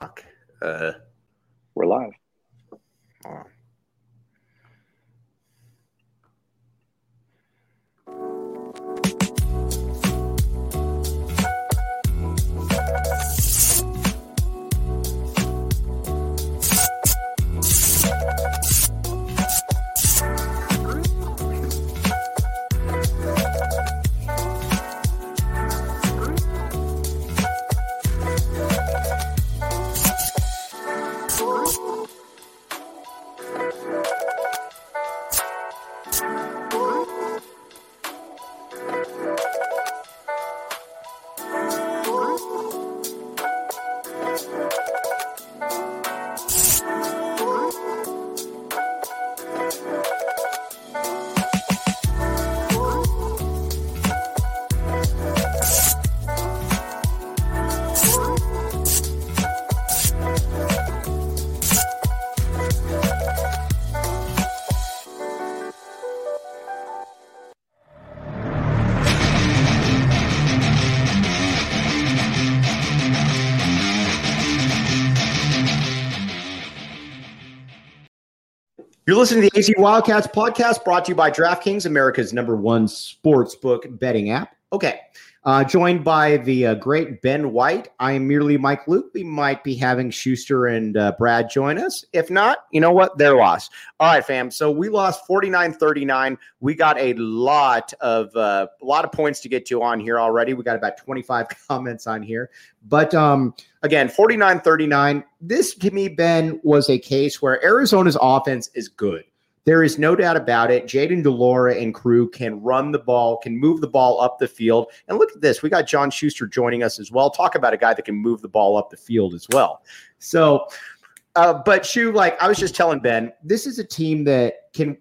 Fuck. We're live. Oh. You're listening to the AZ Wildcats podcast brought to you by DraftKings, America's #1 sportsbook betting app. Okay. Joined by the great Ben White. I am merely Mike Luke. We might be having Schuster and Brad join us. If not, you know what? They're lost. All right, fam. So we lost 49-39. We got a lot of points to get to on here already. We got about 25 comments on here. But again, 49-39. This, to me, Ben, was a case where Arizona's offense is good. There is no doubt about it. Jayden de Laura and crew can run the ball, can move the ball up the field. And look at this. We got John Schuster joining us as well. Talk about a guy that can move the ball up the field as well. So, but Shu, like I was just telling Ben, this is a team that can,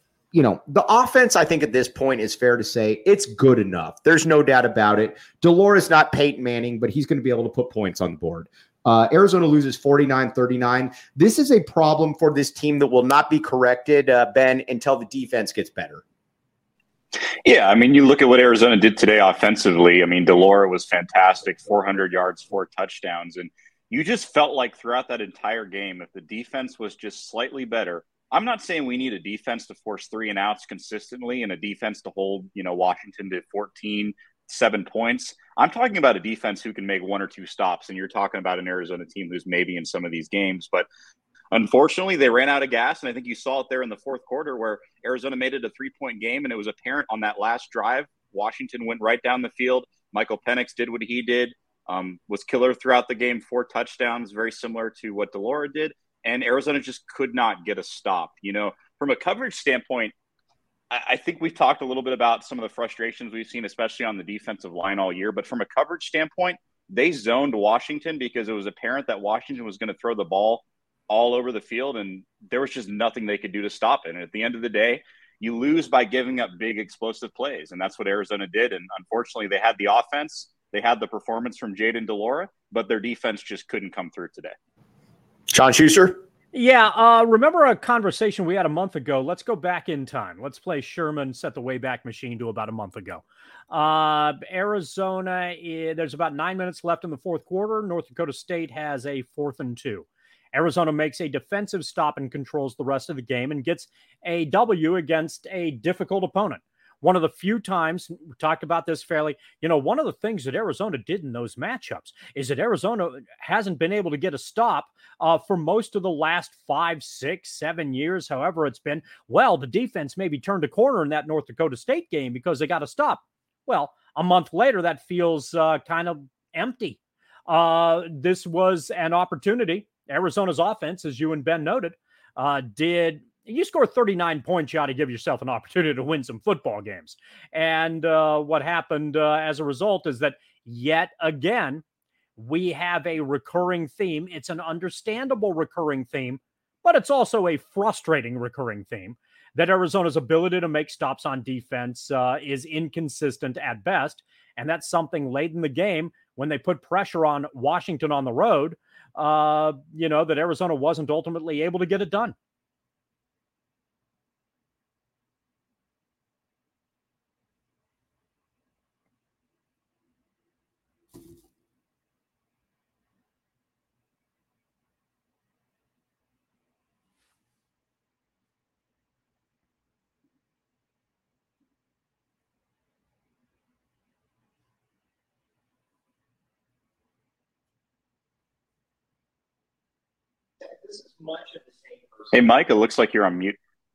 the offense, I think at this point is fair to say it's good enough. There's no doubt about it. De Laura's not Peyton Manning, but he's going to be able to put points on the board. Arizona loses 49-39. This is a problem for this team that will not be corrected, Ben, until the defense gets better. Yeah, I mean, you look at what Arizona did today offensively. I mean, de Laura was fantastic, 400 yards, 4 touchdowns. And you just felt like throughout that entire game, if the defense was just slightly better, I'm not saying we need a defense to force 3 and outs consistently and a defense to hold, Washington to 7 points. I'm talking about a defense who can make 1 or 2 stops, and you're talking about an Arizona team who's maybe in some of these games. But unfortunately, they ran out of gas, and I think you saw it there in the fourth quarter where Arizona made it a 3-point game, and it was apparent on that last drive. Washington went right down the field. Michael Penix did what he did, was killer throughout the game, 4 touchdowns, very similar to what de Laura did, and Arizona just could not get a stop. From a coverage standpoint, I think we've talked a little bit about some of the frustrations we've seen, especially on the defensive line all year. But from a coverage standpoint, they zoned Washington because it was apparent that Washington was going to throw the ball all over the field, and there was just nothing they could do to stop it. And at the end of the day, you lose by giving up big explosive plays, and that's what Arizona did. And unfortunately, they had the offense, they had the performance from Jayden de Laura, but their defense just couldn't come through today. John Schuster? Yeah, remember a conversation we had a month ago? Let's go back in time. Let's play Sherman, set the Wayback Machine to about a month ago. Arizona, there's about 9 minutes left in the fourth quarter. North Dakota State has a 4th and 2. Arizona makes a defensive stop and controls the rest of the game and gets a W against a difficult opponent. One of the few times, we talked about this fairly, one of the things that Arizona did in those matchups is that Arizona hasn't been able to get a stop for most of the last 5, 6, 7 years, however it's been. Well, the defense maybe turned a corner in that North Dakota State game because they got a stop. Well, a month later, that feels kind of empty. This was an opportunity. Arizona's offense, as you and Ben noted, you score 39 points, you ought to give yourself an opportunity to win some football games. And what happened as a result is that yet again, we have a recurring theme. It's an understandable recurring theme, but it's also a frustrating recurring theme that Arizona's ability to make stops on defense is inconsistent at best. And that's something late in the game when they put pressure on Washington on the road, that Arizona wasn't ultimately able to get it done. Hey, Mike, it looks like you're on mute.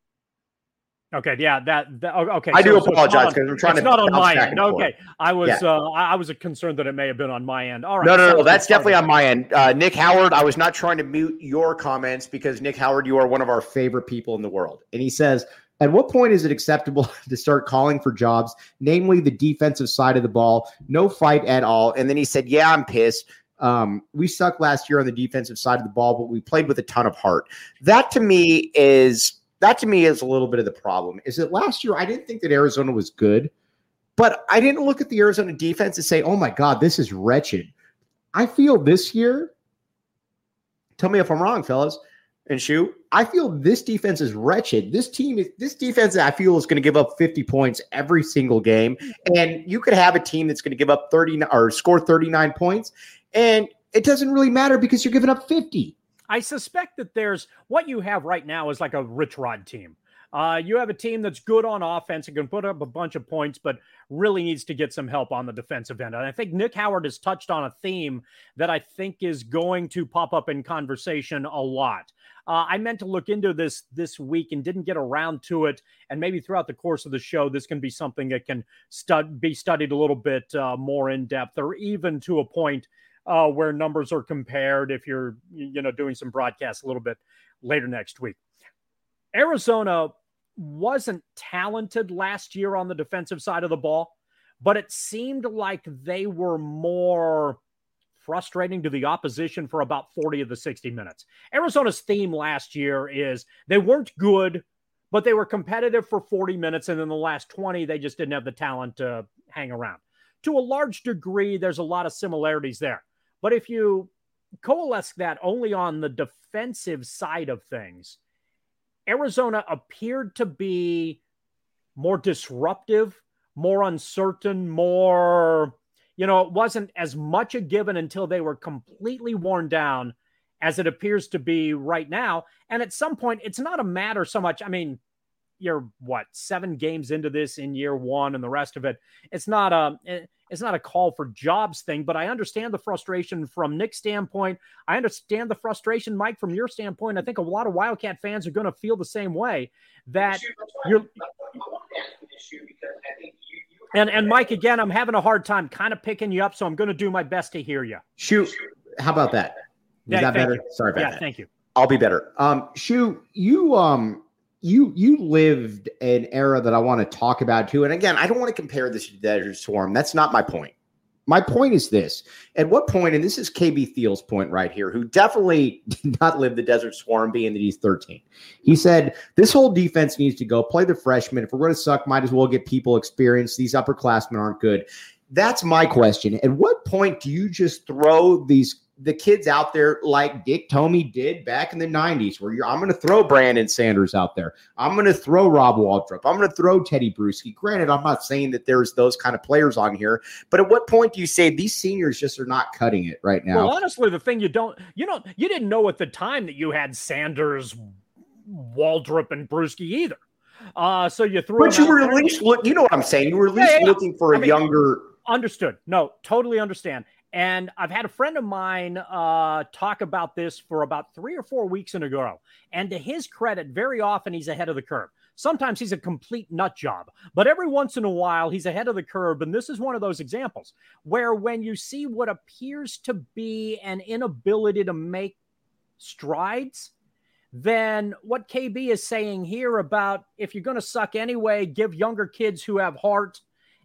Okay, yeah, okay. I do apologize because I'm trying to. It's not on my end. Okay, I was Yeah. concerned that it may have been on my end. All right, No. That's definitely on my end. Nick Howard, I was not trying to mute your comments because Nick Howard, you are one of our favorite people in the world, and he says, "At what point is it acceptable to start calling for jobs, namely the defensive side of the ball? No fight at all." And then he said, "Yeah, I'm pissed. We sucked last year on the defensive side of the ball, but we played with a ton of heart." That to me is a little bit of the problem. Is that last year I didn't think that Arizona was good, but I didn't look at the Arizona defense and say, "Oh my God, this is wretched." I feel this year, tell me if I'm wrong, fellas and Shu, I feel this defense is wretched. This defense I feel is going to give up 50 points every single game. And you could have a team that's going to give up 30 or score 39 points. And it doesn't really matter because you're giving up 50. I suspect that there's what you have right now is like a Rich Rod team. You have a team that's good on offense and can put up a bunch of points, but really needs to get some help on the defensive end. And I think Nick Howard has touched on a theme that I think is going to pop up in conversation a lot. I meant to look into this week and didn't get around to it. And maybe throughout the course of the show, this can be something that can be studied a little bit more in depth, or even to a point where numbers are compared if you're, doing some broadcasts a little bit later next week. Arizona wasn't talented last year on the defensive side of the ball, but it seemed like they were more frustrating to the opposition for about 40 of the 60 minutes. Arizona's theme last year is they weren't good, but they were competitive for 40 minutes, and in the last 20, they just didn't have the talent to hang around. To a large degree, there's a lot of similarities there. But if you coalesce that only on the defensive side of things, Arizona appeared to be more disruptive, more uncertain, more, it wasn't as much a given until they were completely worn down as it appears to be right now. And at some point, it's not a matter so much. I mean, you're 7 games into this in year one and the rest of it. It's not a call for jobs thing, but I understand the frustration from Nick's standpoint. I understand the frustration, Mike, from your standpoint. I think a lot of Wildcat fans are going to feel the same way that you're. And Mike, again, I'm having a hard time kind of picking you up, so I'm going to do my best to hear you. Shu, how about that? Is that better? Sorry about that. Yeah, thank you. I'll be better. Shu, you lived an era that I want to talk about too. And again, I don't want to compare this to Desert Swarm. That's not my point. My point is this. At what point, and this is KB Thiel's point right here, who definitely did not live the Desert Swarm, being that he's 13. He said, this whole defense needs to go play the freshmen. If we're going to suck, might as well get people experience. These upperclassmen aren't good. That's my question. At what point do you just throw the kids out there like Dick Tomey did back in the 90s, where I'm going to throw Brandon Sanders out there. I'm going to throw Rob Waldrop. I'm going to throw Teddy Bruschi. Granted, I'm not saying that there's those kind of players on here, but at what point do you say these seniors just are not cutting it right now? Well, honestly, the thing you didn't know at the time that you had Sanders, Waldrop, and Bruschi either. So you threw. But you were at least you know what I'm saying. You were at least looking for a younger. Understood. No, totally understand. And I've had a friend of mine talk about this for about 3 or 4 weeks in a row. And to his credit, very often he's ahead of the curve. Sometimes he's a complete nut job, but every once in a while he's ahead of the curve. And this is one of those examples where when you see what appears to be an inability to make strides, then what KB is saying here about if you're going to suck anyway, give younger kids who have heart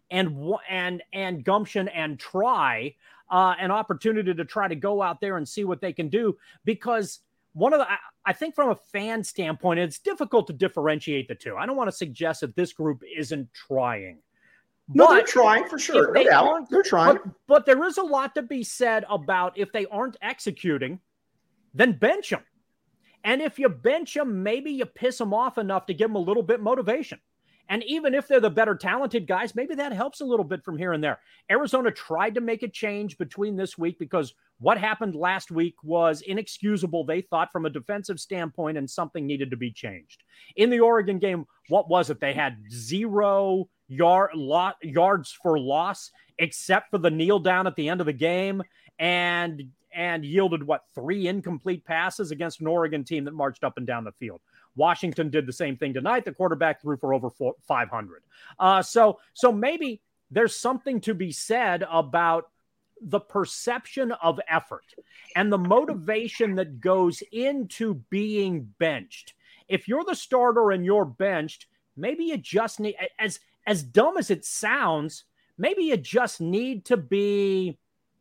and gumption and try an opportunity to try to go out there and see what they can do. Because I think from a fan standpoint, it's difficult to differentiate the two. I don't want to suggest that this group isn't trying. No, they're trying for sure. No doubt. They're trying. But there is a lot to be said about if they aren't executing, then bench them. And if you bench them, maybe you piss them off enough to give them a little bit motivation. And even if they're the better talented guys, maybe that helps a little bit from here and there. Arizona tried to make a change between this week because what happened last week was inexcusable, they thought, from a defensive standpoint, and something needed to be changed. In the Oregon game, what was it? They had 0 yards for loss, except for the kneel down at the end of the game. and yielded 3 incomplete passes against an Oregon team that marched up and down the field. Washington did the same thing tonight. The quarterback threw for over 500. So maybe there's something to be said about the perception of effort and the motivation that goes into being benched. If you're the starter and you're benched, maybe you just need, as dumb as it sounds, maybe you just need to be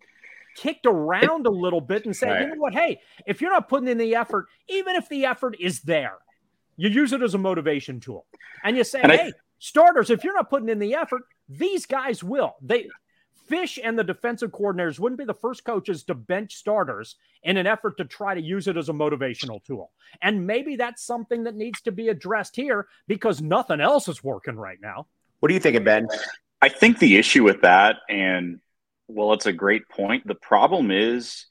kicked around a little bit and say, right, you know what, hey, if you're not putting in the effort, even if the effort is there, you use it as a motivation tool. And you say, hey, starters, if you're not putting in the effort, these guys will. Fish and the defensive coordinators wouldn't be the first coaches to bench starters in an effort to try to use it as a motivational tool. And maybe that's something that needs to be addressed here because nothing else is working right now. What are you thinking, Ben? I think the issue with that, and well, it's a great point. The problem is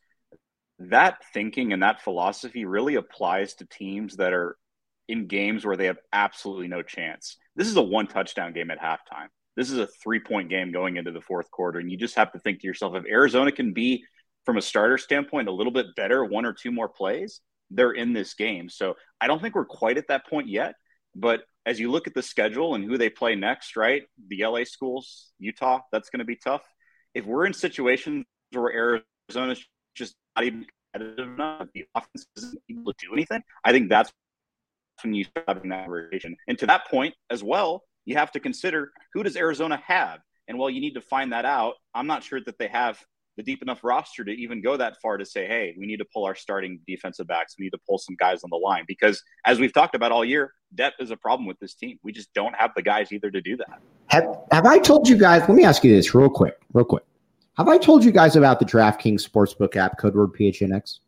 that thinking and that philosophy really applies to teams that are in games where they have absolutely no chance. This is a 1 touchdown game at halftime. This is a 3-point game going into the fourth quarter. And you just have to think to yourself, if Arizona can be, from a starter standpoint, a little bit better, 1 or 2 more plays, they're in this game. So I don't think we're quite at that point yet. But as you look at the schedule and who they play next, right? The LA schools, Utah, that's going to be tough. If we're in situations where Arizona's just not even competitive enough, the offense isn't able to do anything, I think that's when you start having that rotation. And to that point as well, you have to consider, who does Arizona have? And while you need to find that out, I'm not sure that they have the deep enough roster to even go that far to say, hey, we need to pull our starting defensive backs. We need to pull some guys on the line. Because as we've talked about all year, depth is a problem with this team. We just don't have the guys either to do that. Have I told you guys, let me ask you this real quick. Have I told you guys about the DraftKings Sportsbook app, code word PHNX?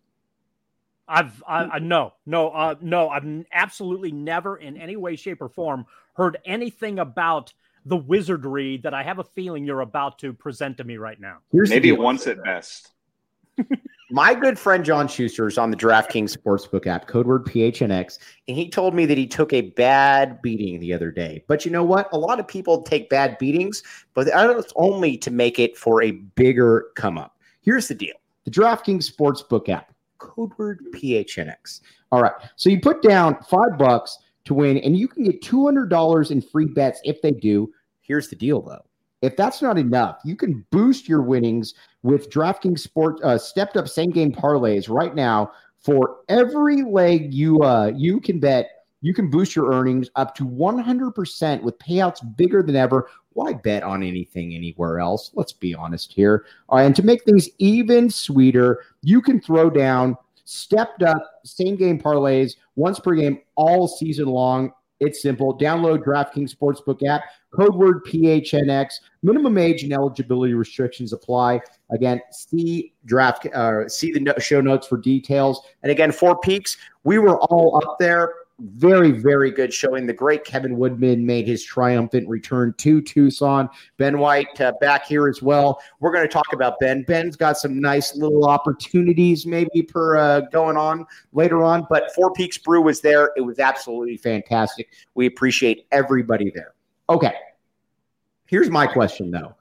No, I've absolutely never in any way, shape, or form heard anything about the wizardry that I have a feeling you're about to present to me right now. Maybe once at best. My good friend John Schuster is on the DraftKings Sportsbook app, code word PHNX, and he told me that he took a bad beating the other day. But you know what? A lot of people take bad beatings, but it's only to make it for a bigger come up. Here's the deal. The DraftKings Sportsbook app, code word PHNX. All right. So you put down $5 to win, and you can get $200 in free bets if they do. Here's the deal, though. If that's not enough, you can boost your winnings with DraftKings stepped up same game parlays right now. For every leg you can bet, you can boost your earnings up to 100% with payouts bigger than ever. Why bet on anything anywhere else? Let's be honest here. And to make things even sweeter, you can throw down stepped up same game parlays once per game all season long. It's simple. Download DraftKings Sportsbook app, code word PHNX. Minimum age and eligibility restrictions apply. Again, see the show notes for details. And again, Four Peaks, we were all up there. Very, very good showing. The great Kevin Woodman made his triumphant return to Tucson. Ben White back here as well. We're going to talk about Ben. Ben's got some nice little opportunities maybe per going on later on. But Four Peaks Brew was there. It was absolutely fantastic. We appreciate everybody there. Okay. Here's my question, though.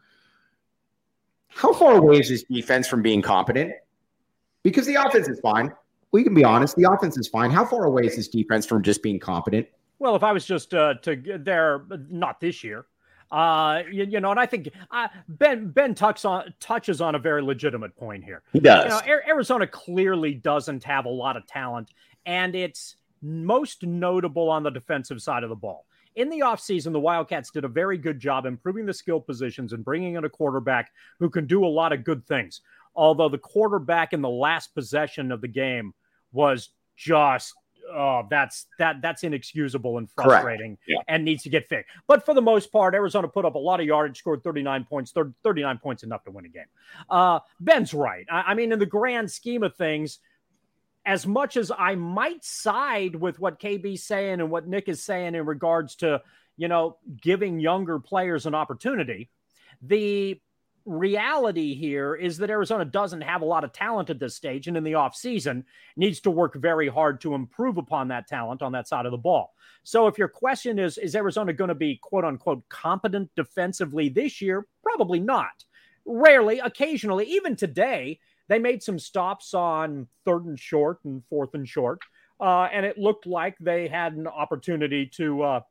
How far away is this defense from being competent? Because the offense is fine. We can be honest. The offense is fine. How far away is this defense from just being competent? Well, if I was just there, not this year, and I think Ben touches on a very legitimate point here. He does. Arizona clearly doesn't have a lot of talent, and it's most notable on the defensive side of the ball. In the offseason, the Wildcats did a very good job improving the skill positions and bringing in a quarterback who can do a lot of good things. Although the quarterback in the last possession of the game was just that's inexcusable and frustrating and needs to get fixed. But for the most part, Arizona put up a lot of yardage, scored 39 points, 39 points enough to win a game. Ben's right. I mean, in the grand scheme of things, as much as I might side with what KB's saying and what Nick is saying in regards to, giving younger players an opportunity, the reality here is that Arizona doesn't have a lot of talent at this stage, and in the offseason needs to work very hard to improve upon that talent on that side of the ball. So if your question is Arizona going to be quote unquote competent defensively this year? Probably not. Rarely, occasionally, even today, they made some stops on 3rd and short and 4th and short. And it looked like they had an opportunity to,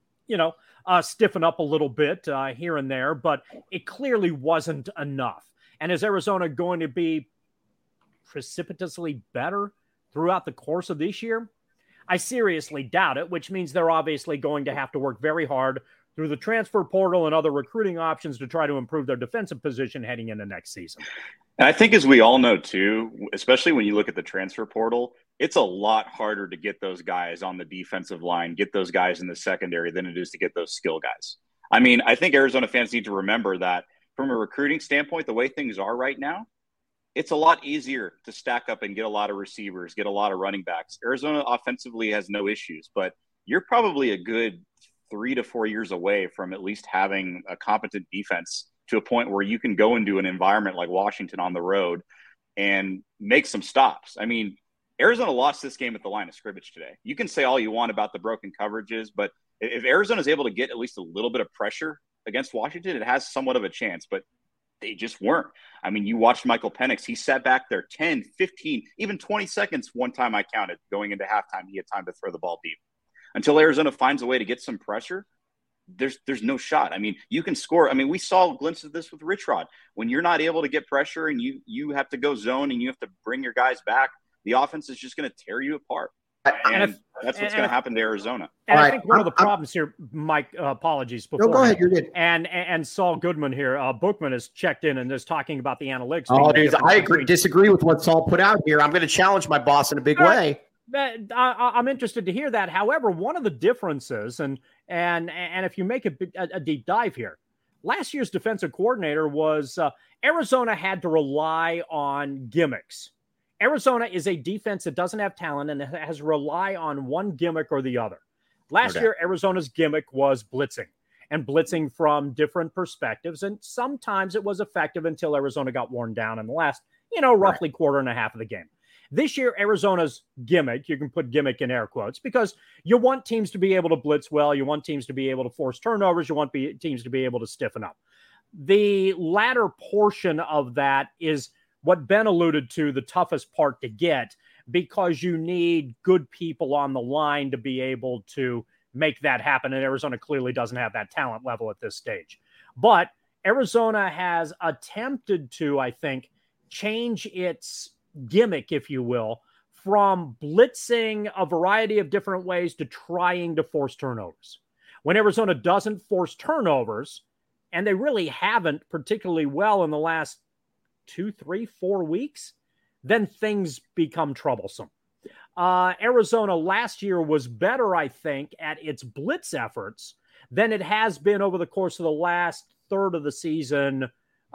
stiffen up a little bit here and there, but it clearly wasn't enough. And is Arizona going to be precipitously better throughout the course of this year? I seriously doubt it, which means they're obviously going to have to work very hard through the transfer portal and other recruiting options to try to improve their defensive position heading into next season. And I think, as we all know too, especially when you look at the transfer portal, it's a lot harder to get those guys on the defensive line, get those guys in the secondary than it is to get those skill guys. I mean, I think Arizona fans need to remember that from a recruiting standpoint, the way things are right now, it's a lot easier to stack up and get a lot of receivers, get a lot of running backs. Arizona offensively has no issues, but you're probably a good 3 to 4 years away from at least having a competent defense to a point where you can go into an environment like Washington on the road and make some stops. I mean, Arizona lost this game at the line of scrimmage today. You can say all you want about the broken coverages, but if Arizona is able to get at least a little bit of pressure against Washington, it has somewhat of a chance, but they just weren't. I mean, you watched Michael Penix. He sat back there 10, 15, even 20 seconds. One time I counted going into halftime, he had time to throw the ball deep. Until Arizona finds a way to get some pressure, there's no shot. I mean, you can score. I mean, we saw glimpses of this with Rich Rod. When you're not able to get pressure and you have to go zone and you have to bring your guys back, the offense is just going to tear you apart. And that's what's going to happen to Arizona. And I think one of the problems here, Mike, apologies. No, go ahead. You're good. And Saul Goodman here, Bookman has checked in and is talking about the analytics. Oh, dude, I disagree with what Saul put out here. I'm going to challenge my boss in a big way. I'm interested to hear that. However, one of the differences, and if you make a deep dive here, last year's defensive coordinator was Arizona had to rely on gimmicks. Arizona is a defense that doesn't have talent and has to rely on one gimmick or the other. Last year, Arizona's gimmick was blitzing, and blitzing from different perspectives. And sometimes it was effective until Arizona got worn down in the last, roughly quarter and a half of the game. This year, Arizona's gimmick, you can put gimmick in air quotes, because you want teams to be able to blitz well. You want teams to be able to force turnovers. You want teams to be able to stiffen up. The latter portion of that is what Ben alluded to, the toughest part to get, because you need good people on the line to be able to make that happen. And Arizona clearly doesn't have that talent level at this stage. But Arizona has attempted to, I think, change its gimmick, if you will, from blitzing a variety of different ways to trying to force turnovers. When Arizona doesn't force turnovers, and they really haven't particularly well in the last 2, 3, 4 weeks, then things become troublesome. Arizona last year was better, I think, at its blitz efforts than it has been over the course of the last third of the season,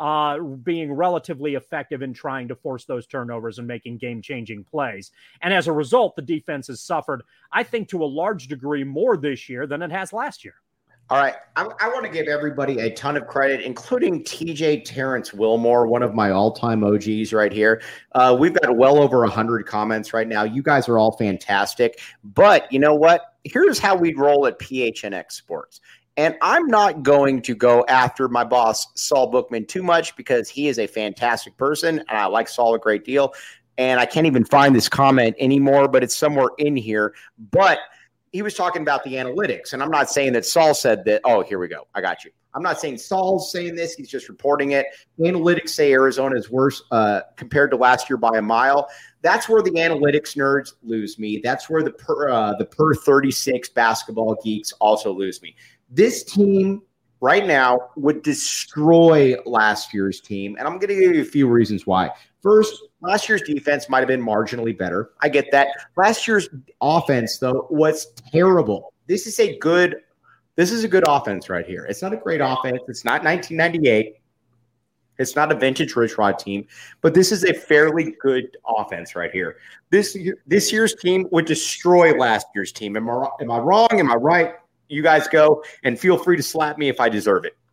being relatively effective in trying to force those turnovers and making game-changing plays. And as a result, the defense has suffered, I think, to a large degree more this year than it has last year. All right. I want to give everybody a ton of credit, including TJ Terrence Wilmore, one of my all-time OGs right here. We've got well over 100 comments right now. You guys are all fantastic. But you know what? Here's how we roll at PHNX Sports. And I'm not going to go after my boss, Saul Bookman, too much, because he is a fantastic person, and I like Saul a great deal. And I can't even find this comment anymore, but it's somewhere in here. But he was talking about the analytics, and I'm not saying that Saul said that. Oh, here we go. I got you. I'm not saying Saul's saying this. He's just reporting it. Analytics say Arizona is worse compared to last year by a mile. That's where the analytics nerds lose me. That's where the per 36 basketball geeks also lose me. This team right now would destroy last year's team, and I'm going to give you a few reasons why. First, last year's defense might have been marginally better. I get that. Last year's offense, though, was terrible. This is a good offense right here. It's not a great offense. It's not 1998. It's not a vintage Rich Rod team, but this is a fairly good offense right here. This year's team would destroy last year's team. Am I wrong? Am I right? You guys go, and feel free to slap me if I deserve it.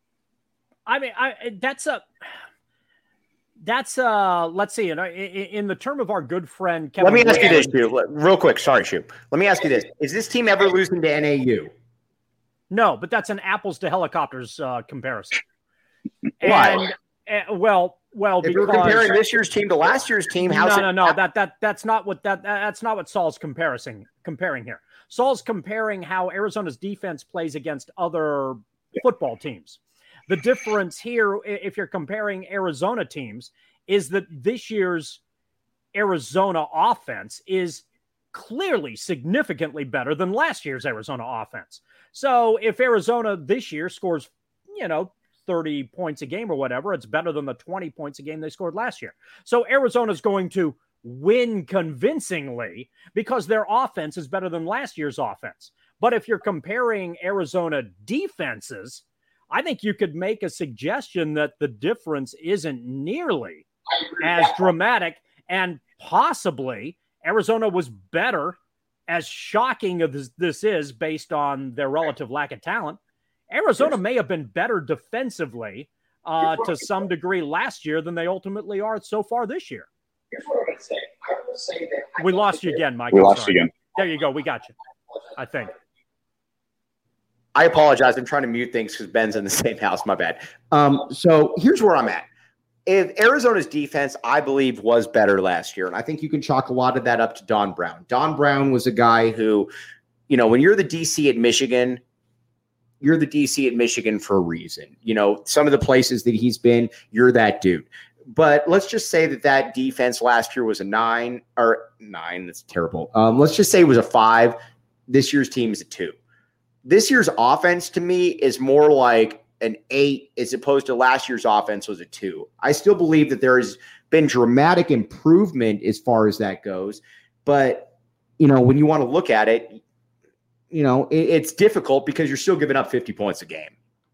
I mean, that's let's see. In the term of our good friend Kevin. Let me ask you this, Shu, real quick. Sorry, Shu. Let me ask you this: is this team ever losing to NAU? No, but that's an apples to helicopters comparison. Why? Well, Well, if you're comparing this year's team to last year's team, no. That's not what Saul's comparing here. Saul's comparing how Arizona's defense plays against other football teams. The difference here, if you're comparing Arizona teams, is that this year's Arizona offense is clearly significantly better than last year's Arizona offense. So if Arizona this year scores, 30 points a game or whatever, it's better than the 20 points a game they scored last year. So Arizona's going to win convincingly because their offense is better than last year's offense. But if you're comparing Arizona defenses, I think you could make a suggestion that the difference isn't nearly as dramatic, and possibly Arizona was better, as shocking as this is based on their relative lack of talent. Arizona may have been better defensively to some degree last year than they ultimately are so far this year. Here's what I'm going to say. I will say that we lost you again, Mike. We lost you again. There you go. We got you, I think. I apologize. I'm trying to mute things because Ben's in the same house. My bad. So here's where I'm at. If Arizona's defense, I believe, was better last year, and I think you can chalk a lot of that up to Don Brown. Don Brown was a guy who, when you're the DC at Michigan, you're the DC at Michigan for a reason. Some of the places that he's been, you're that dude. But let's just say that defense last year was a 9. That's terrible. Let's just say it was a 5. This year's team is a 2. This year's offense to me is more like an 8 as opposed to last year's offense was a 2. I still believe that there has been dramatic improvement as far as that goes. But, when you want to look at it, it's difficult because you're still giving up 50 points a game.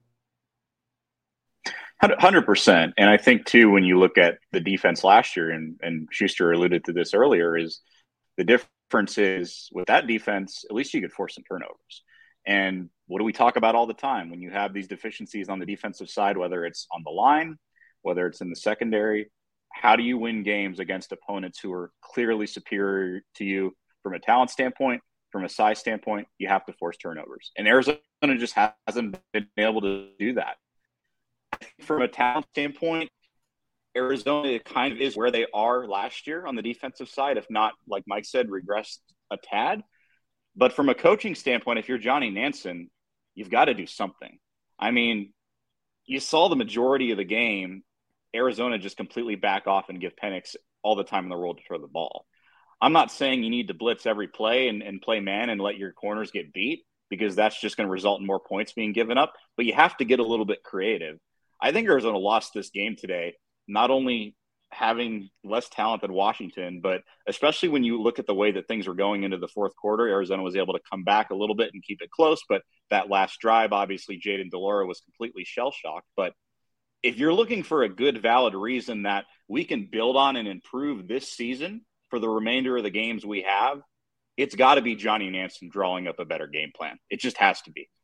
100%. And I think, too, when you look at the defense last year, and Schuster alluded to this earlier, is the difference is with that defense, at least you could force some turnovers. And what do we talk about all the time? When you have these deficiencies on the defensive side, whether it's on the line, whether it's in the secondary, how do you win games against opponents who are clearly superior to you from a talent standpoint, from a size standpoint? You have to force turnovers. And Arizona just hasn't been able to do that. From a talent standpoint, Arizona kind of is where they are last year on the defensive side, if not, like Mike said, regressed a tad. But from a coaching standpoint, if you're Johnny Nansen, you've got to do something. I mean, you saw the majority of the game, Arizona just completely back off and give Penix all the time in the world to throw the ball. I'm not saying you need to blitz every play and play man and let your corners get beat, because that's just going to result in more points being given up. But you have to get a little bit creative. I think Arizona lost this game today, not only having less talent than Washington, but especially when you look at the way that things were going into the fourth quarter, Arizona was able to come back a little bit and keep it close. But that last drive, obviously, Jayden de Laura was completely shell-shocked. But if you're looking for a good, valid reason that we can build on and improve this season for the remainder of the games we have, it's got to be Johnny Nansen drawing up a better game plan. It just has to be.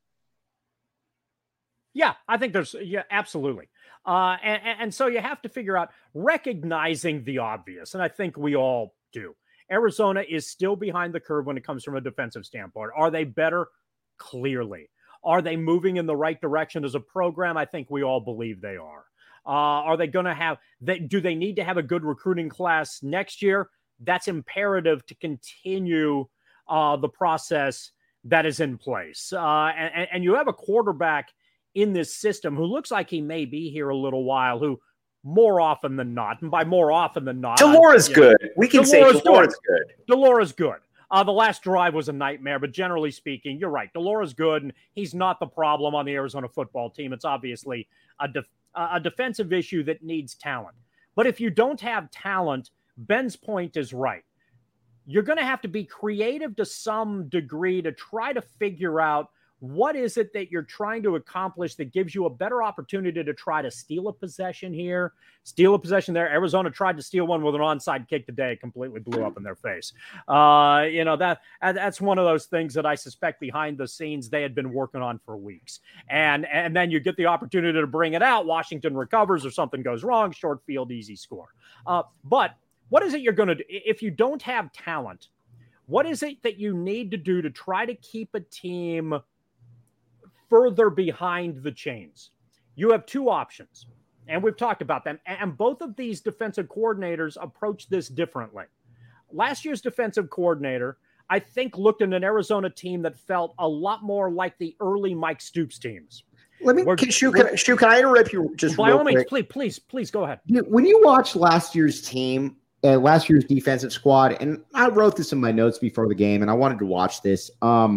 Yeah, I think absolutely. And so you have to figure out recognizing the obvious. And I think we all do. Arizona is still behind the curve when it comes from a defensive standpoint. Are they better? Clearly. Are they moving in the right direction as a program? I think we all believe they are. Are they going to have, do they need to have a good recruiting class next year? That's imperative to continue the process that is in place. And you have a quarterback in this system who looks like he may be here a little while, who more often than not, and by more often than not, de Laura's good. We can say de Laura's good. De Laura's good. The last drive was a nightmare, but generally speaking, you're right. De Laura's good, and he's not the problem on the Arizona football team. It's obviously a defensive issue that needs talent. But if you don't have talent, Ben's point is right. You're going to have to be creative to some degree to try to figure out what is it that you're trying to accomplish that gives you a better opportunity to try to steal a possession here, steal a possession there. Arizona tried to steal one with an onside kick today. It completely blew up in their face. That's one of those things that I suspect behind the scenes they had been working on for weeks. And then you get the opportunity to bring it out. Washington recovers or something goes wrong, short field, easy score. But what is it you're going to do? If you don't have talent, what is it that you need to do to try to keep a team further behind the chains? You have two options. And we've talked about them. And both of these defensive coordinators approach this differently. Last year's defensive coordinator, I think, looked at an Arizona team that felt a lot more like the early Mike Stoops teams. Can I interrupt you just by all means, please go ahead. When you watch last year's team, last year's defensive squad, and I wrote this in my notes before the game, and I wanted to watch this.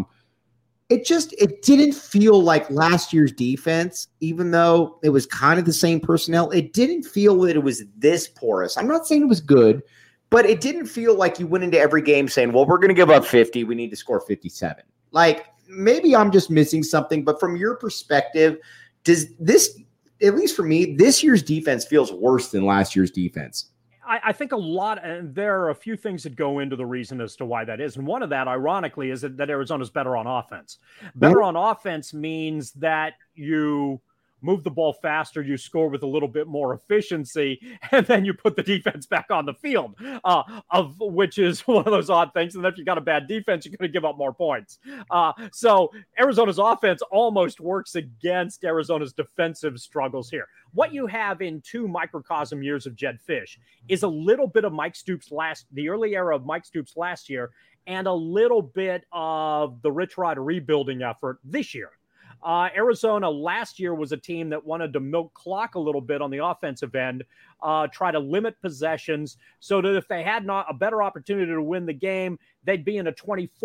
It didn't feel like last year's defense, even though it was kind of the same personnel. It didn't feel that it was this porous. I'm not saying it was good, but it didn't feel like you went into every game saying, well, we're going to give up 50. We need to score 57. Like, maybe I'm just missing something, but from your perspective, does this, at least for me, this year's defense feels worse than last year's defense? I think and there are a few things that go into the reason as to why that is. And one of that, ironically, is that Arizona's better on offense. Better on offense means that you move the ball faster, you score with a little bit more efficiency, and then you put the defense back on the field, of which is one of those odd things. And if you got a bad defense, you're going to give up more points. So Arizona's offense almost works against Arizona's defensive struggles here. What you have in 2 microcosm years of Jedd Fisch is a little bit of Mike Stoops the early era of Mike Stoops last year, and a little bit of the Rich Rod rebuilding effort this year. Arizona last year was a team that wanted to milk clock a little bit on the offensive end, try to limit possessions so that if they had not a better opportunity to win the game, they'd be in a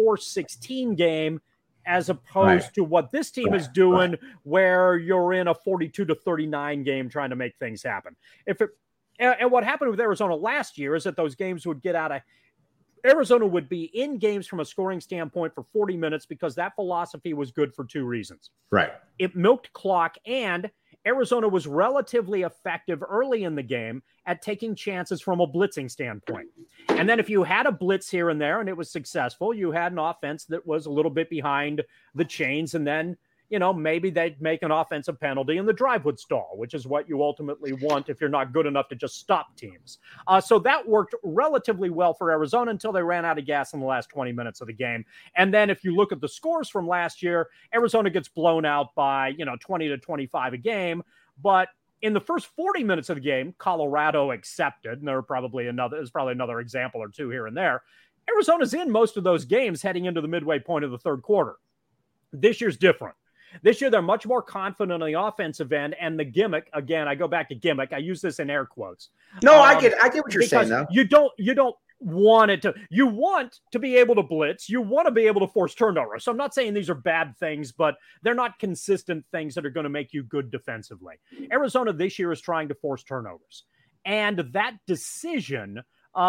24-16 game, as opposed to what this team is doing, where you're in a 42-39 game trying to make things happen. And what happened with Arizona last year is that those games would get out of Arizona would be in games from a scoring standpoint for 40 minutes because that philosophy was good for 2 reasons. Right. It milked clock, and Arizona was relatively effective early in the game at taking chances from a blitzing standpoint. And then if you had a blitz here and there and it was successful, you had an offense that was a little bit behind the chains, and then maybe they'd make an offensive penalty and the drive would stall, which is what you ultimately want if you're not good enough to just stop teams. So that worked relatively well for Arizona until they ran out of gas in the last 20 minutes of the game. And then if you look at the scores from last year, Arizona gets blown out by, 20-25 a game. But in the first 40 minutes of the game, Colorado accepted, and there's probably another example or 2 here and there. Arizona's in most of those games heading into the midway point of the third quarter. This year's different. This year, they're much more confident on the offensive end, and the gimmick, again, I go back to gimmick. I use this in air quotes. No, I get what you're saying, though. You don't want it to. You want to be able to blitz. You want to be able to force turnovers. So I'm not saying these are bad things, but they're not consistent things that are going to make you good defensively. Arizona this year is trying to force turnovers. And that decision,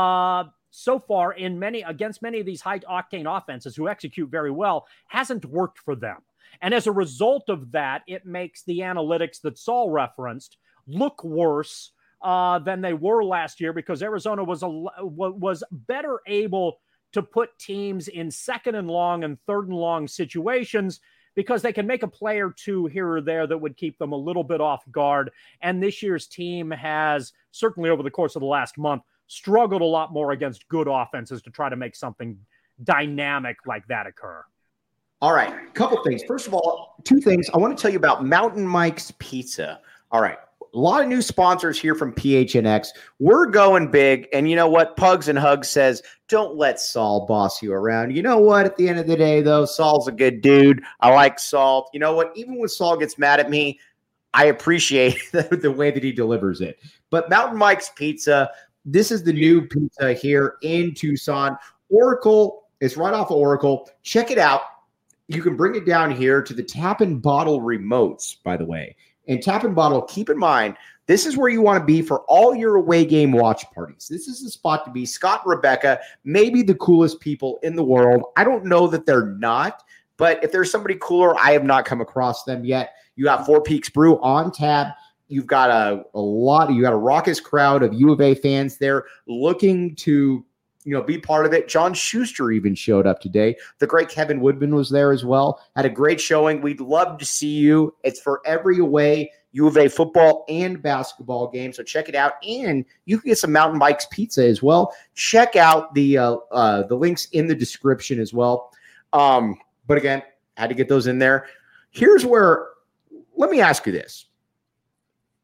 so far against many of these high-octane offenses who execute very well, hasn't worked for them. And as a result of that, it makes the analytics that Saul referenced look worse than they were last year, because Arizona was better able to put teams in 2nd and long and 3rd and long situations, because they can make a play or 2 here or there that would keep them a little bit off guard. And this year's team has, certainly over the course of the last month, struggled a lot more against good offenses to try to make something dynamic like that occur. All right, a couple things. First of all, 2 things. I want to tell you about Mountain Mike's Pizza. All right, a lot of new sponsors here from PHNX. We're going big, and you know what? Pugs and Hugs says, don't let Saul boss you around. You know what? At the end of the day, though, Saul's a good dude. I like Saul. You know what? Even when Saul gets mad at me, I appreciate the way that he delivers it. But Mountain Mike's Pizza, this is the new pizza here in Tucson. Oracle, it's right off of Oracle. Check it out. You can bring it down here to the Tap and Bottle remotes, by the way. And Tap and Bottle, keep in mind, this is where you want to be for all your away game watch parties. This is the spot to be. Scott and Rebecca, maybe the coolest people in the world. I don't know that they're not, but if there's somebody cooler, I have not come across them yet. You got Four Peaks Brew on tap. You've got a raucous crowd of U of A fans there looking to be part of it. John Schuster even showed up today. The great Kevin Woodman was there as well. Had a great showing. We'd love to see you. It's for every away U of A football and basketball game. So check it out. And you can get some Mountain Mike's Pizza as well. Check out the links in the description as well. But again, had to get those in there. Here's where, let me ask you this.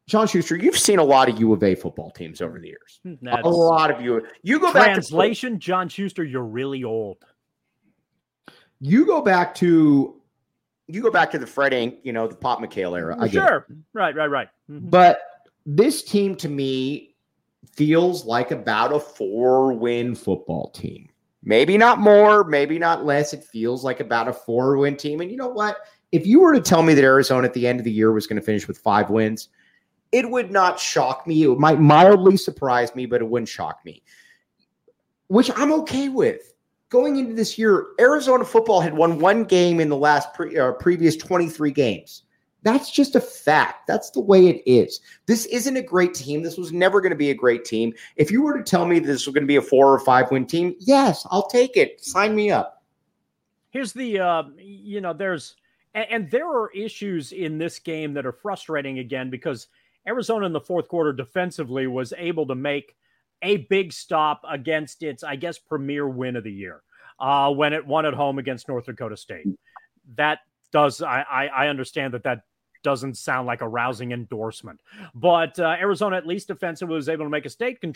John Schuster, you've seen a lot of U of A football teams over the years. That's a lot of you go back to translation, John Schuster, you're really old. You go back to the Fred Ink, the Pop McHale era. Sure. Right. Mm-hmm. But this team to me feels like about a 4-win football team. Maybe not more, maybe not less. It feels like about a 4-win team. And you know what? If you were to tell me that Arizona at the end of the year was going to finish with 5 wins, it would not shock me. It might mildly surprise me, but it wouldn't shock me, which I'm okay with. Going into this year, Arizona football had won 1 game in the last previous 23 games. That's just a fact. That's the way it is. This isn't a great team. This was never going to be a great team. If you were to tell me this was going to be a 4 or 5 win team, yes, I'll take it. Sign me up. Here's the, there are issues in this game that are frustrating again because Arizona in the fourth quarter defensively was able to make a big stop against its, I guess, premier win of the year when it won at home against North Dakota State. That does, I understand that doesn't sound like a rousing endorsement, but Arizona, at least defensively, was able to make a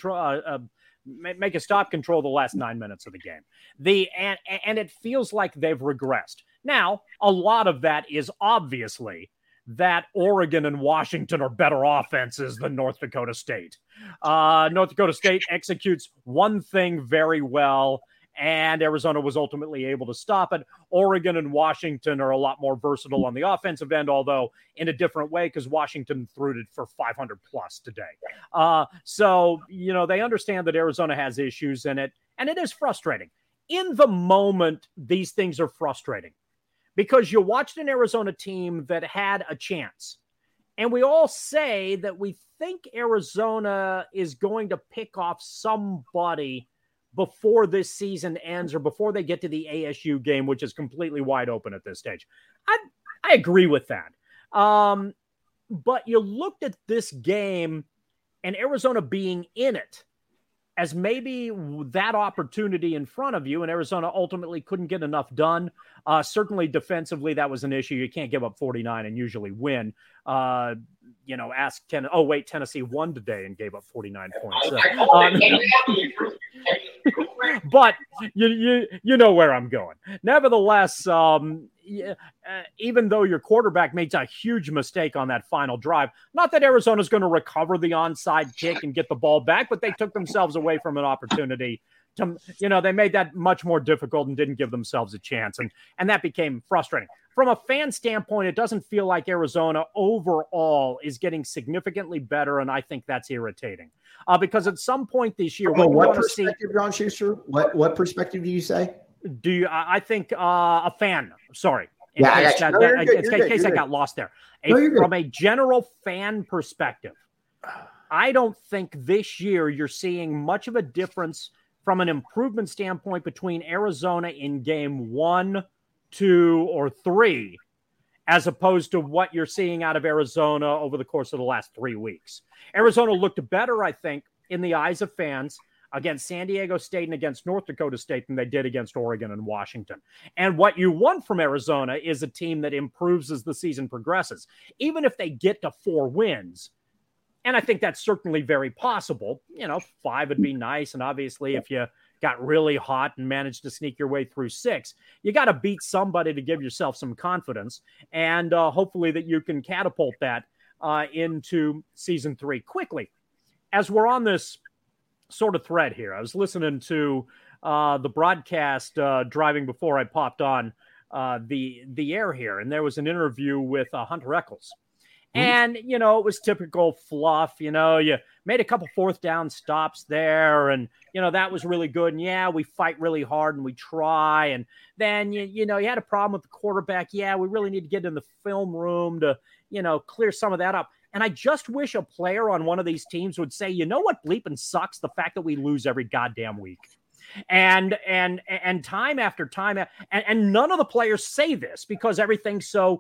stop control the last 9 minutes of the game. And it feels like they've regressed. Now, a lot of that is obviously that Oregon and Washington are better offenses than North Dakota State. North Dakota State executes one thing very well, and Arizona was ultimately able to stop it. Oregon and Washington are a lot more versatile on the offensive end, although in a different way because Washington threw it for 500 plus today. So, they understand that Arizona has issues in it, and it is frustrating. In the moment, these things are frustrating because you watched an Arizona team that had a chance. And we all say that we think Arizona is going to pick off somebody before this season ends or before they get to the ASU game, which is completely wide open at this stage. I agree with that. But you looked at this game and Arizona being in it as maybe that opportunity in front of you, and Arizona ultimately couldn't get enough done. Certainly defensively, that was an issue. You can't give up 49 and usually win. Tennessee won today and gave up 49 points. But you know where I'm going. Nevertheless, even though your quarterback makes a huge mistake on that final drive, not that Arizona's going to recover the onside kick and get the ball back, but they took themselves away from an opportunity to, they made that much more difficult and didn't give themselves a chance. And that became frustrating. From a fan standpoint, it doesn't feel like Arizona overall is getting significantly better, and I think that's irritating. Because at some point this year, what perspective, John Schuster? What perspective do you say? I think a fan. Sorry, in case I got lost there. From a general fan perspective, I don't think this year you're seeing much of a difference from an improvement standpoint between Arizona in game 1, 2, or 3, as opposed to what you're seeing out of Arizona over the course of the last 3 weeks. Arizona looked better, I think, in the eyes of fans against San Diego State and against North Dakota State than they did against Oregon and Washington. And what you want from Arizona is a team that improves as the season progresses. Even if they get to 4 wins, and I think that's certainly very possible, 5 would be nice. And obviously if you got really hot and managed to sneak your way through 6, you got to beat somebody to give yourself some confidence. And hopefully that you can catapult that into season 3 quickly. As we're on this sort of thread here, I was listening to the broadcast driving before I popped on the air here, and there was an interview with Hunter Echols. And, it was typical fluff. You made a couple 4th down stops there, and, that was really good. And, yeah, we fight really hard and we try. And then, you had a problem with the quarterback. Yeah, we really need to get in the film room to, clear some of that up. And I just wish a player on one of these teams would say, you know what bleeping sucks? The fact that we lose every goddamn week. And time after time, and none of the players say this because everything's so,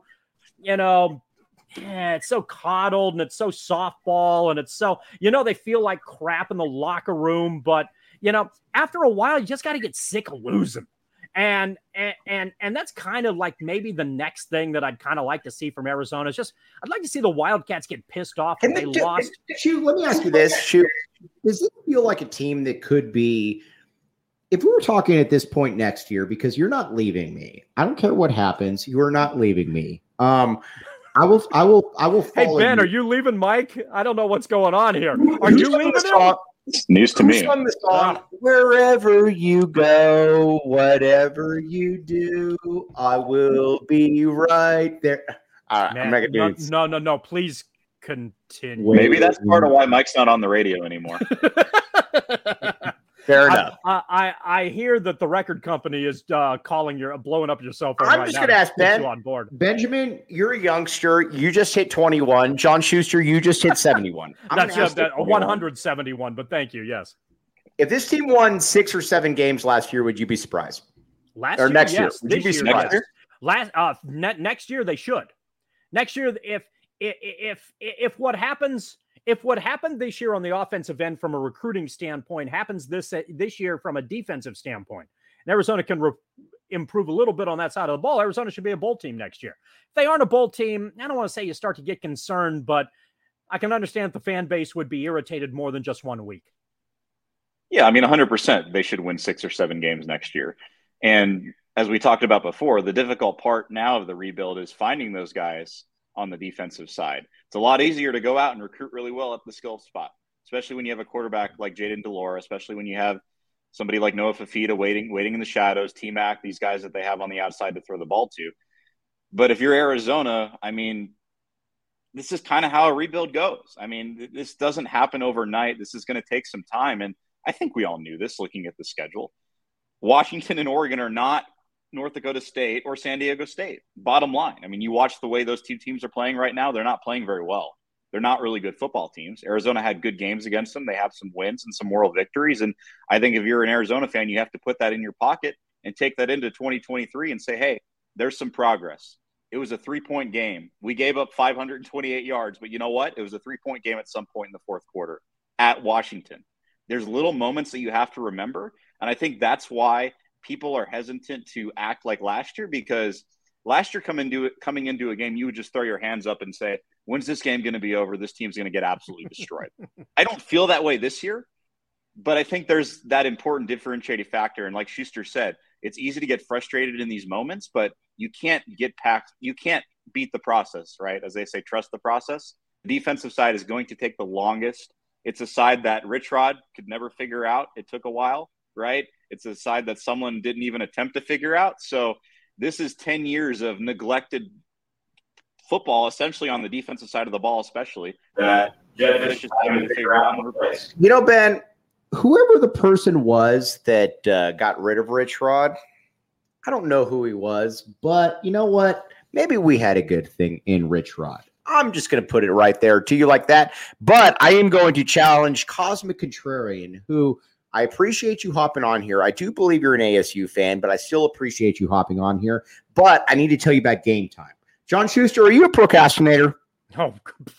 it's so coddled and it's so softball and it's so, they feel like crap in the locker room. But, after a while, you just got to get sick of losing. And that's kind of like maybe the next thing that I'd kind of like to see from Arizona is just I'd like to see the Wildcats get pissed off when they lost. Let me ask you this. Does it feel like a team that could be, if we were talking at this point next year, because you're not leaving me. I don't care what happens. You are not leaving me. I will follow. Hey, Ben, are you leaving Mike? I don't know what's going on here. Are you leaving him? It's news to me. Sung the song, wherever you go, whatever you do, I will be right there. All right, Man, I'm making no. Please continue. Maybe that's part of why Mike's not on the radio anymore. Fair enough. I hear that the record company is blowing up your cell phone. I'm just going to ask Ben. On board. Benjamin, you're a youngster. You just hit 21. John Schuster, you just hit 71. That's 171. But thank you. Yes. If this team won 6 or 7 games last year, would you be surprised? Next year, would you be surprised? Next year they should. Next year, if what happens. If what happened this year on the offensive end from a recruiting standpoint happens this year from a defensive standpoint, and Arizona can improve a little bit on that side of the ball, Arizona should be a bowl team next year. If they aren't a bowl team, I don't want to say you start to get concerned, but I can understand the fan base would be irritated more than just 1 week. Yeah, I mean, 100% they should win 6 or 7 games next year. And as we talked about before, the difficult part now of the rebuild is finding those guys on the defensive side. It's a lot easier to go out and recruit really well at the skill spot, especially when you have a quarterback like Jayden de Laura, especially when you have somebody like Noah Fafita waiting in the shadows, T-Mac, these guys that they have on the outside to throw the ball to. But if you're Arizona, I mean, this is kind of how a rebuild goes. I mean, this doesn't happen overnight. This is going to take some time. And I think we all knew this looking at the schedule. Washington and Oregon are not North Dakota State or San Diego State. Bottom line. I mean, you watch the way those two teams are playing right now. They're not playing very well. They're not really good football teams. Arizona had good games against them. They have some wins and some moral victories. And I think if you're an Arizona fan, you have to put that in your pocket and take that into 2023 and say, hey, there's some progress. It was a 3-point game. We gave up 528 yards, but you know what? It was a 3-point game at some point in the fourth quarter at Washington. There's little moments that you have to remember. And I think that's why people are hesitant to act like last year, because last year coming into a game, you would just throw your hands up and say, when's this game going to be over? This team's going to get absolutely destroyed. I don't feel that way this year, but I think there's that important differentiating factor. And like Schuster said, it's easy to get frustrated in these moments, but you can't beat the process, right? As they say, trust the process. The defensive side is going to take the longest. It's a side that Rich Rod could never figure out. It took a while, right? It's a side that someone didn't even attempt to figure out. So this is 10 years of neglected football, essentially on the defensive side of the ball, especially that Jedd Fisch is having to figure out and replace. You know, Ben, whoever the person was that got rid of Rich Rod, I don't know who he was, but you know what? Maybe we had a good thing in Rich Rod. I'm just going to put it right there to you like that. But I am going to challenge Cosmic Contrarian, who I appreciate you hopping on here. I do believe you're an ASU fan, but I still appreciate you hopping on here. But I need to tell you about Game Time. John Schuster, are you a procrastinator? Oh,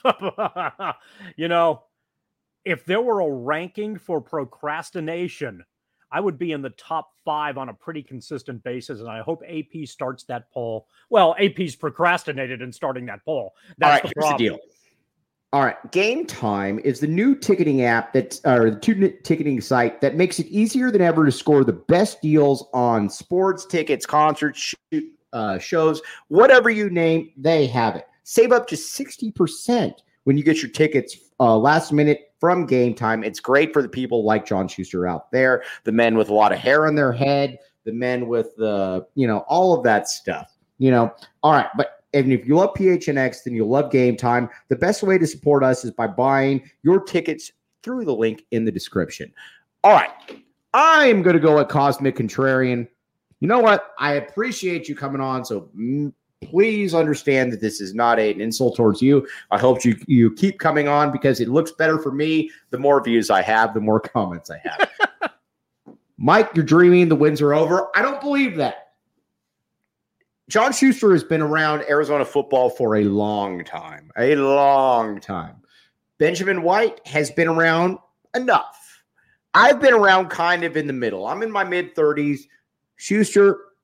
you know, if there were a ranking for procrastination, I would be in the top 5 on a pretty consistent basis, and I hope AP starts that poll. Well, AP's procrastinated in starting that poll. That's all right, here's the deal. All right, Game Time is the new ticketing app the ticketing site that makes it easier than ever to score the best deals on sports tickets, concerts, shows, whatever you name, they have it. Save up to 60% when you get your tickets last minute from Game Time. It's great for the people like John Schuster out there, the men with a lot of hair on their head, the men with all of that stuff. All right, but and if you love PHNX, then you'll love Game Time. The best way to support us is by buying your tickets through the link in the description. All right, I'm going to go at Cosmic Contrarian. You know what? I appreciate you coming on, so please understand that this is not an insult towards you. I hope you keep coming on because it looks better for me. The more views I have, the more comments I have. Mike, you're dreaming. The wins are over. I don't believe that. John Schuster has been around Arizona football for a long time. Benjamin White has been around enough. I've been around kind of in the middle. I'm in my mid-30s. Schuster,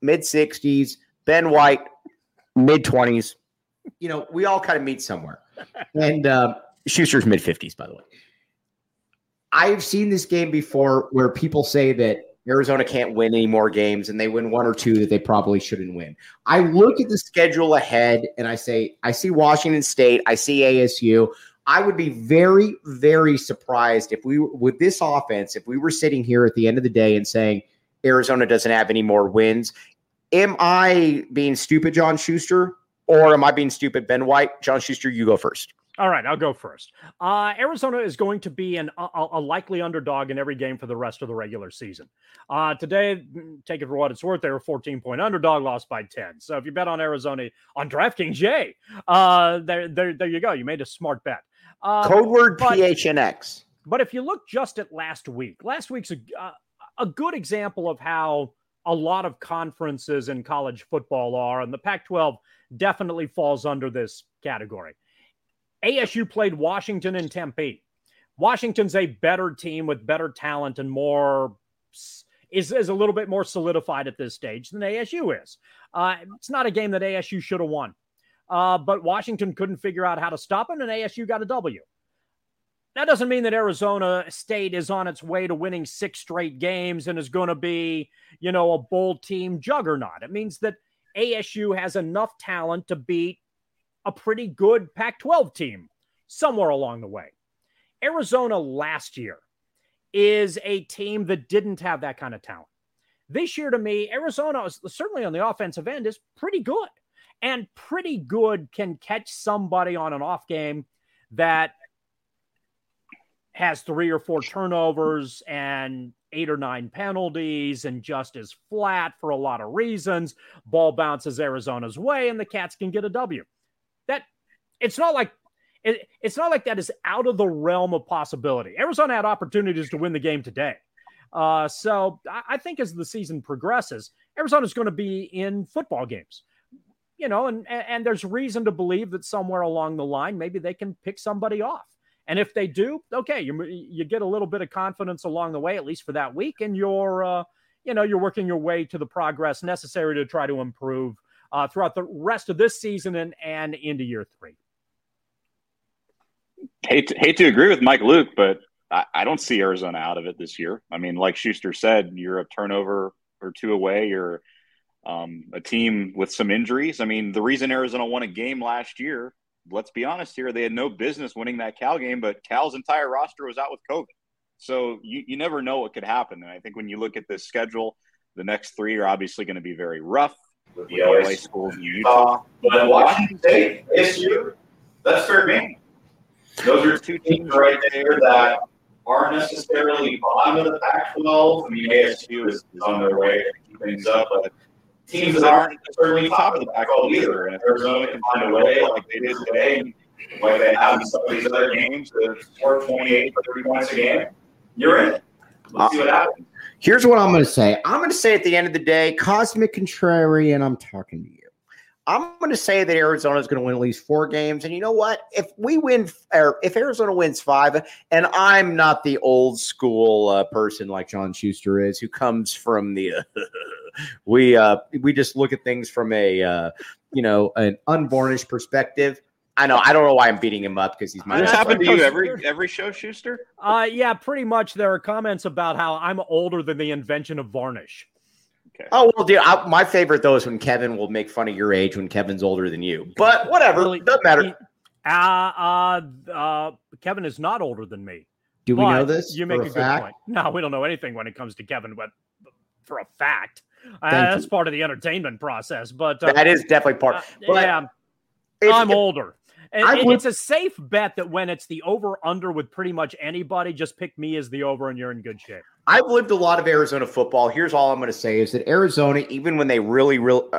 mid-60s, Ben White, mid-20s. We all kind of meet somewhere. And Schuster's mid-50s, by the way. I've seen this game before where people say that Arizona can't win any more games and they win one or two that they probably shouldn't win. I look at the schedule ahead and I say, I see Washington State, I see ASU. I would be very, very surprised if with this offense, if we were sitting here at the end of the day and saying Arizona doesn't have any more wins. Am I being stupid, John Schuster, or am I being stupid, Ben White? John Schuster, you go first. All right, I'll go first. Arizona is going to be a likely underdog in every game for the rest of the regular season. Today, take it for what it's worth, they were a 14-point underdog, lost by 10. So if you bet on Arizona on DraftKings, yay. There you go. You made a smart bet. Code word PHNX. But if you look just at last week's a good example of how a lot of conferences in college football are, and the Pac-12 definitely falls under this category. ASU played Washington and Tempe. Washington's a better team with better talent and is a little bit more solidified at this stage than ASU is. It's not a game that ASU should have won. But Washington couldn't figure out how to stop it, and ASU got a W. That doesn't mean that Arizona State is on its way to winning 6 straight games and is going to be, a bowl team juggernaut. It means that ASU has enough talent to beat a pretty good Pac-12 team somewhere along the way. Arizona last year is a team that didn't have that kind of talent. This year, to me, Arizona, certainly on the offensive end, is pretty good. And pretty good can catch somebody on an off game that has 3 or 4 turnovers and 8 or 9 penalties and just is flat for a lot of reasons. Ball bounces Arizona's way and the Cats can get a W. It's not like that is out of the realm of possibility. Arizona had opportunities to win the game today. So I think as the season progresses, Arizona's going to be in football games. And there's reason to believe that somewhere along the line, maybe they can pick somebody off. And if they do, okay, you get a little bit of confidence along the way, at least for that week, and you're working your way to the progress necessary to try to improve throughout the rest of this season and into year 3. Hate to agree with Mike Luke, but I don't see Arizona out of it this year. I mean, like Schuster said, you're a turnover or 2 away. You're a team with some injuries. I mean, the reason Arizona won a game last year, let's be honest here, they had no business winning that Cal game, but Cal's entire roster was out with COVID. So you never know what could happen. And I think when you look at this schedule, the next 3 are obviously going to be very rough with the LA schools in Utah. But Washington State, ASU, that's fair game. Those are 2 teams right there that aren't necessarily bottom of the Pac-12. I mean, ASU is on their way to keep things up, but teams that aren't necessarily top of the Pac-12 either. And if Arizona can find a way, like they did today, and like they have in some of these other games, to score 28 or 30 points a game, you're in. Let's see what happens. Here's what I'm going to say. I'm going to say at the end of the day, Cosmic Contrarian, I'm talking to you. I'm going to say that Arizona is going to win at least 4 games. And you know what? If Arizona wins 5, and I'm not the old school person like John Schuster is, who comes from the we just look at things from an unvarnished perspective. I know. I don't know why I'm beating him up because he's my. This happened to you every show, Schuster? Yeah, pretty much. There are comments about how I'm older than the invention of varnish. Okay. Oh, well, dude, my favorite, though, is when Kevin will make fun of your age when Kevin's older than you. But whatever. Doesn't matter. Kevin is not older than me. Do we know this? You make a good point. No, we don't know anything when it comes to Kevin, but for a fact. That's part of the entertainment process. But that is definitely part. Yeah, I'm older. It's a safe bet that when it's the over-under with pretty much anybody, just pick me as the over and you're in good shape. I've lived a lot of Arizona football. Here's all I'm going to say is that Arizona, even when they really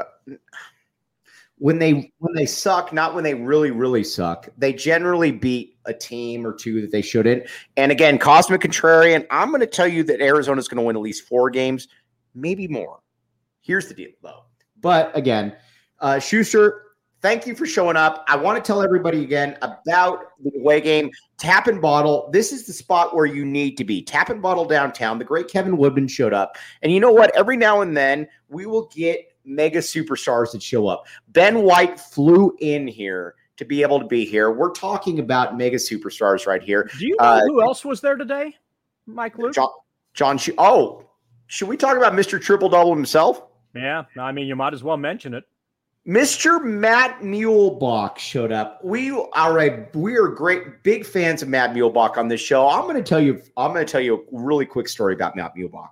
when they suck, not when they really, really suck, they generally beat a team or 2 that they shouldn't. And again, Cosmic Contrarian, I'm going to tell you that Arizona is going to win at least 4 games, maybe more. Here's the deal, though. But again, Schuster, thank you for showing up. I want to tell everybody again about the away game. Tap and Bottle. This is the spot where you need to be. Tap and Bottle downtown. The great Kevin Woodman showed up. And you know what? Every now and then we will get mega superstars that show up. Ben White flew in here to be able to be here. We're talking about mega superstars right here. Do you know who else was there today, Mike Luke? John. Should we talk about Mr. Triple Double himself? Yeah, I mean, you might as well mention it. Mr. Matt Muehlbach showed up. We are great, big fans of Matt Muehlbach on this show. I'm going to tell you a really quick story about Matt Muehlbach.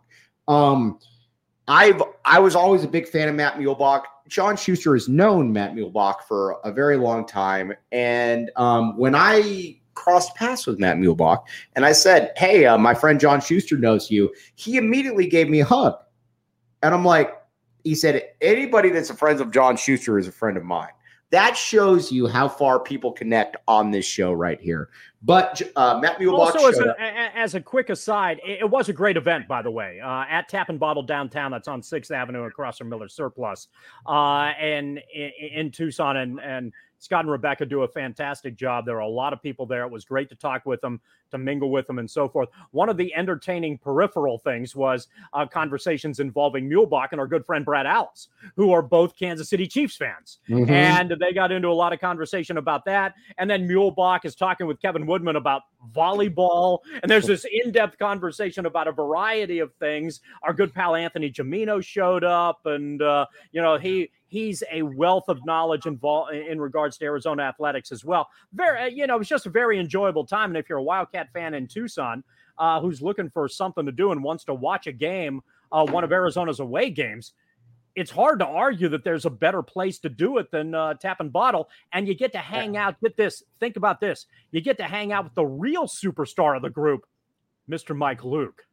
I was always a big fan of Matt Muehlbach. John Schuster has known Matt Muehlbach for a very long time. And when I crossed paths with Matt Muehlbach and I said, hey, my friend John Schuster knows you, he immediately gave me a hug. And I'm like, he said, anybody that's a friend of John Schuster is a friend of mine. That shows you how far people connect on this show right here. But Matt Muehlbach also, as a quick aside, it was a great event, by the way, at Tap and Bottle downtown. That's on 6th Avenue across from Miller Surplus, and in Tucson. And Scott and Rebecca do a fantastic job. There are a lot of people there. It was great to talk with them, to mingle with them, and so forth. One of the entertaining peripheral things was conversations involving Muehlbach and our good friend Brad Allis, who are both Kansas City Chiefs fans. Mm-hmm. And they got into a lot of conversation about that. And then Muehlbach is talking with Kevin Woodman about volleyball. And there's this in-depth conversation about a variety of things. Our good pal Anthony Gimino showed up, and he's a wealth of knowledge in regards to Arizona athletics as well. It was just a very enjoyable time. And if you're a Wildcat fan in Tucson who's looking for something to do and wants to watch a game, one of Arizona's away games, it's hard to argue that there's a better place to do it than Tap and Bottle. And you get to hang out with this. Think about this. You get to hang out with the real superstar of the group, Mr. Mike Luke.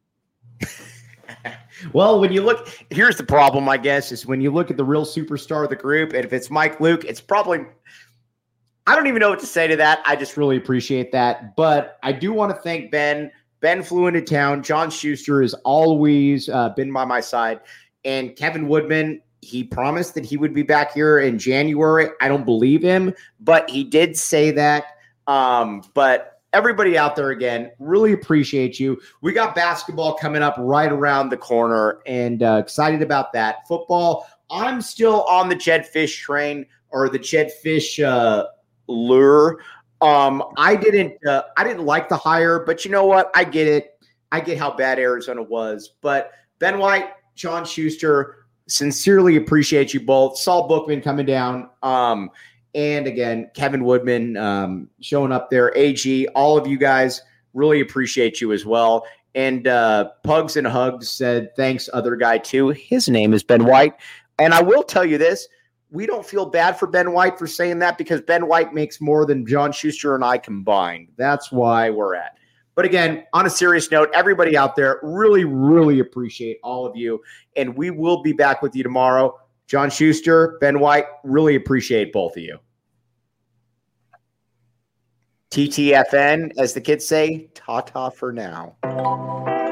Well, when you look, here's the problem, I guess, is when you look at the real superstar of the group, and if it's Mike Luke, it's probably, I don't even know what to say to that. I just really appreciate that. But I do want to thank Ben. Ben flew into town. John Schuster has always been by my side. And Kevin Woodman, he promised that he would be back here in January. I don't believe him, but he did say that. But everybody out there, again, really appreciate you. We got basketball coming up right around the corner, and excited about that. Football, I'm still on the Jedd Fisch train, or the Jedd Fisch lure. I didn't like the hire, but you know what? I get it. I get how bad Arizona was. But Ben White, John Schuster, sincerely appreciate you both. Saul Bookman coming down. And again, Kevin Woodman showing up there. AG, all of you guys, really appreciate you as well. And Pugs and Hugs said, thanks, other guy, too. His name is Ben White. And I will tell you this. We don't feel bad for Ben White for saying that, because Ben White makes more than John Schuster and I combined. That's why we're at. But again, on a serious note, everybody out there, really, really appreciate all of you. And we will be back with you tomorrow. John Schuster, Ben White, really appreciate both of you. TTFN, as the kids say, ta-ta for now.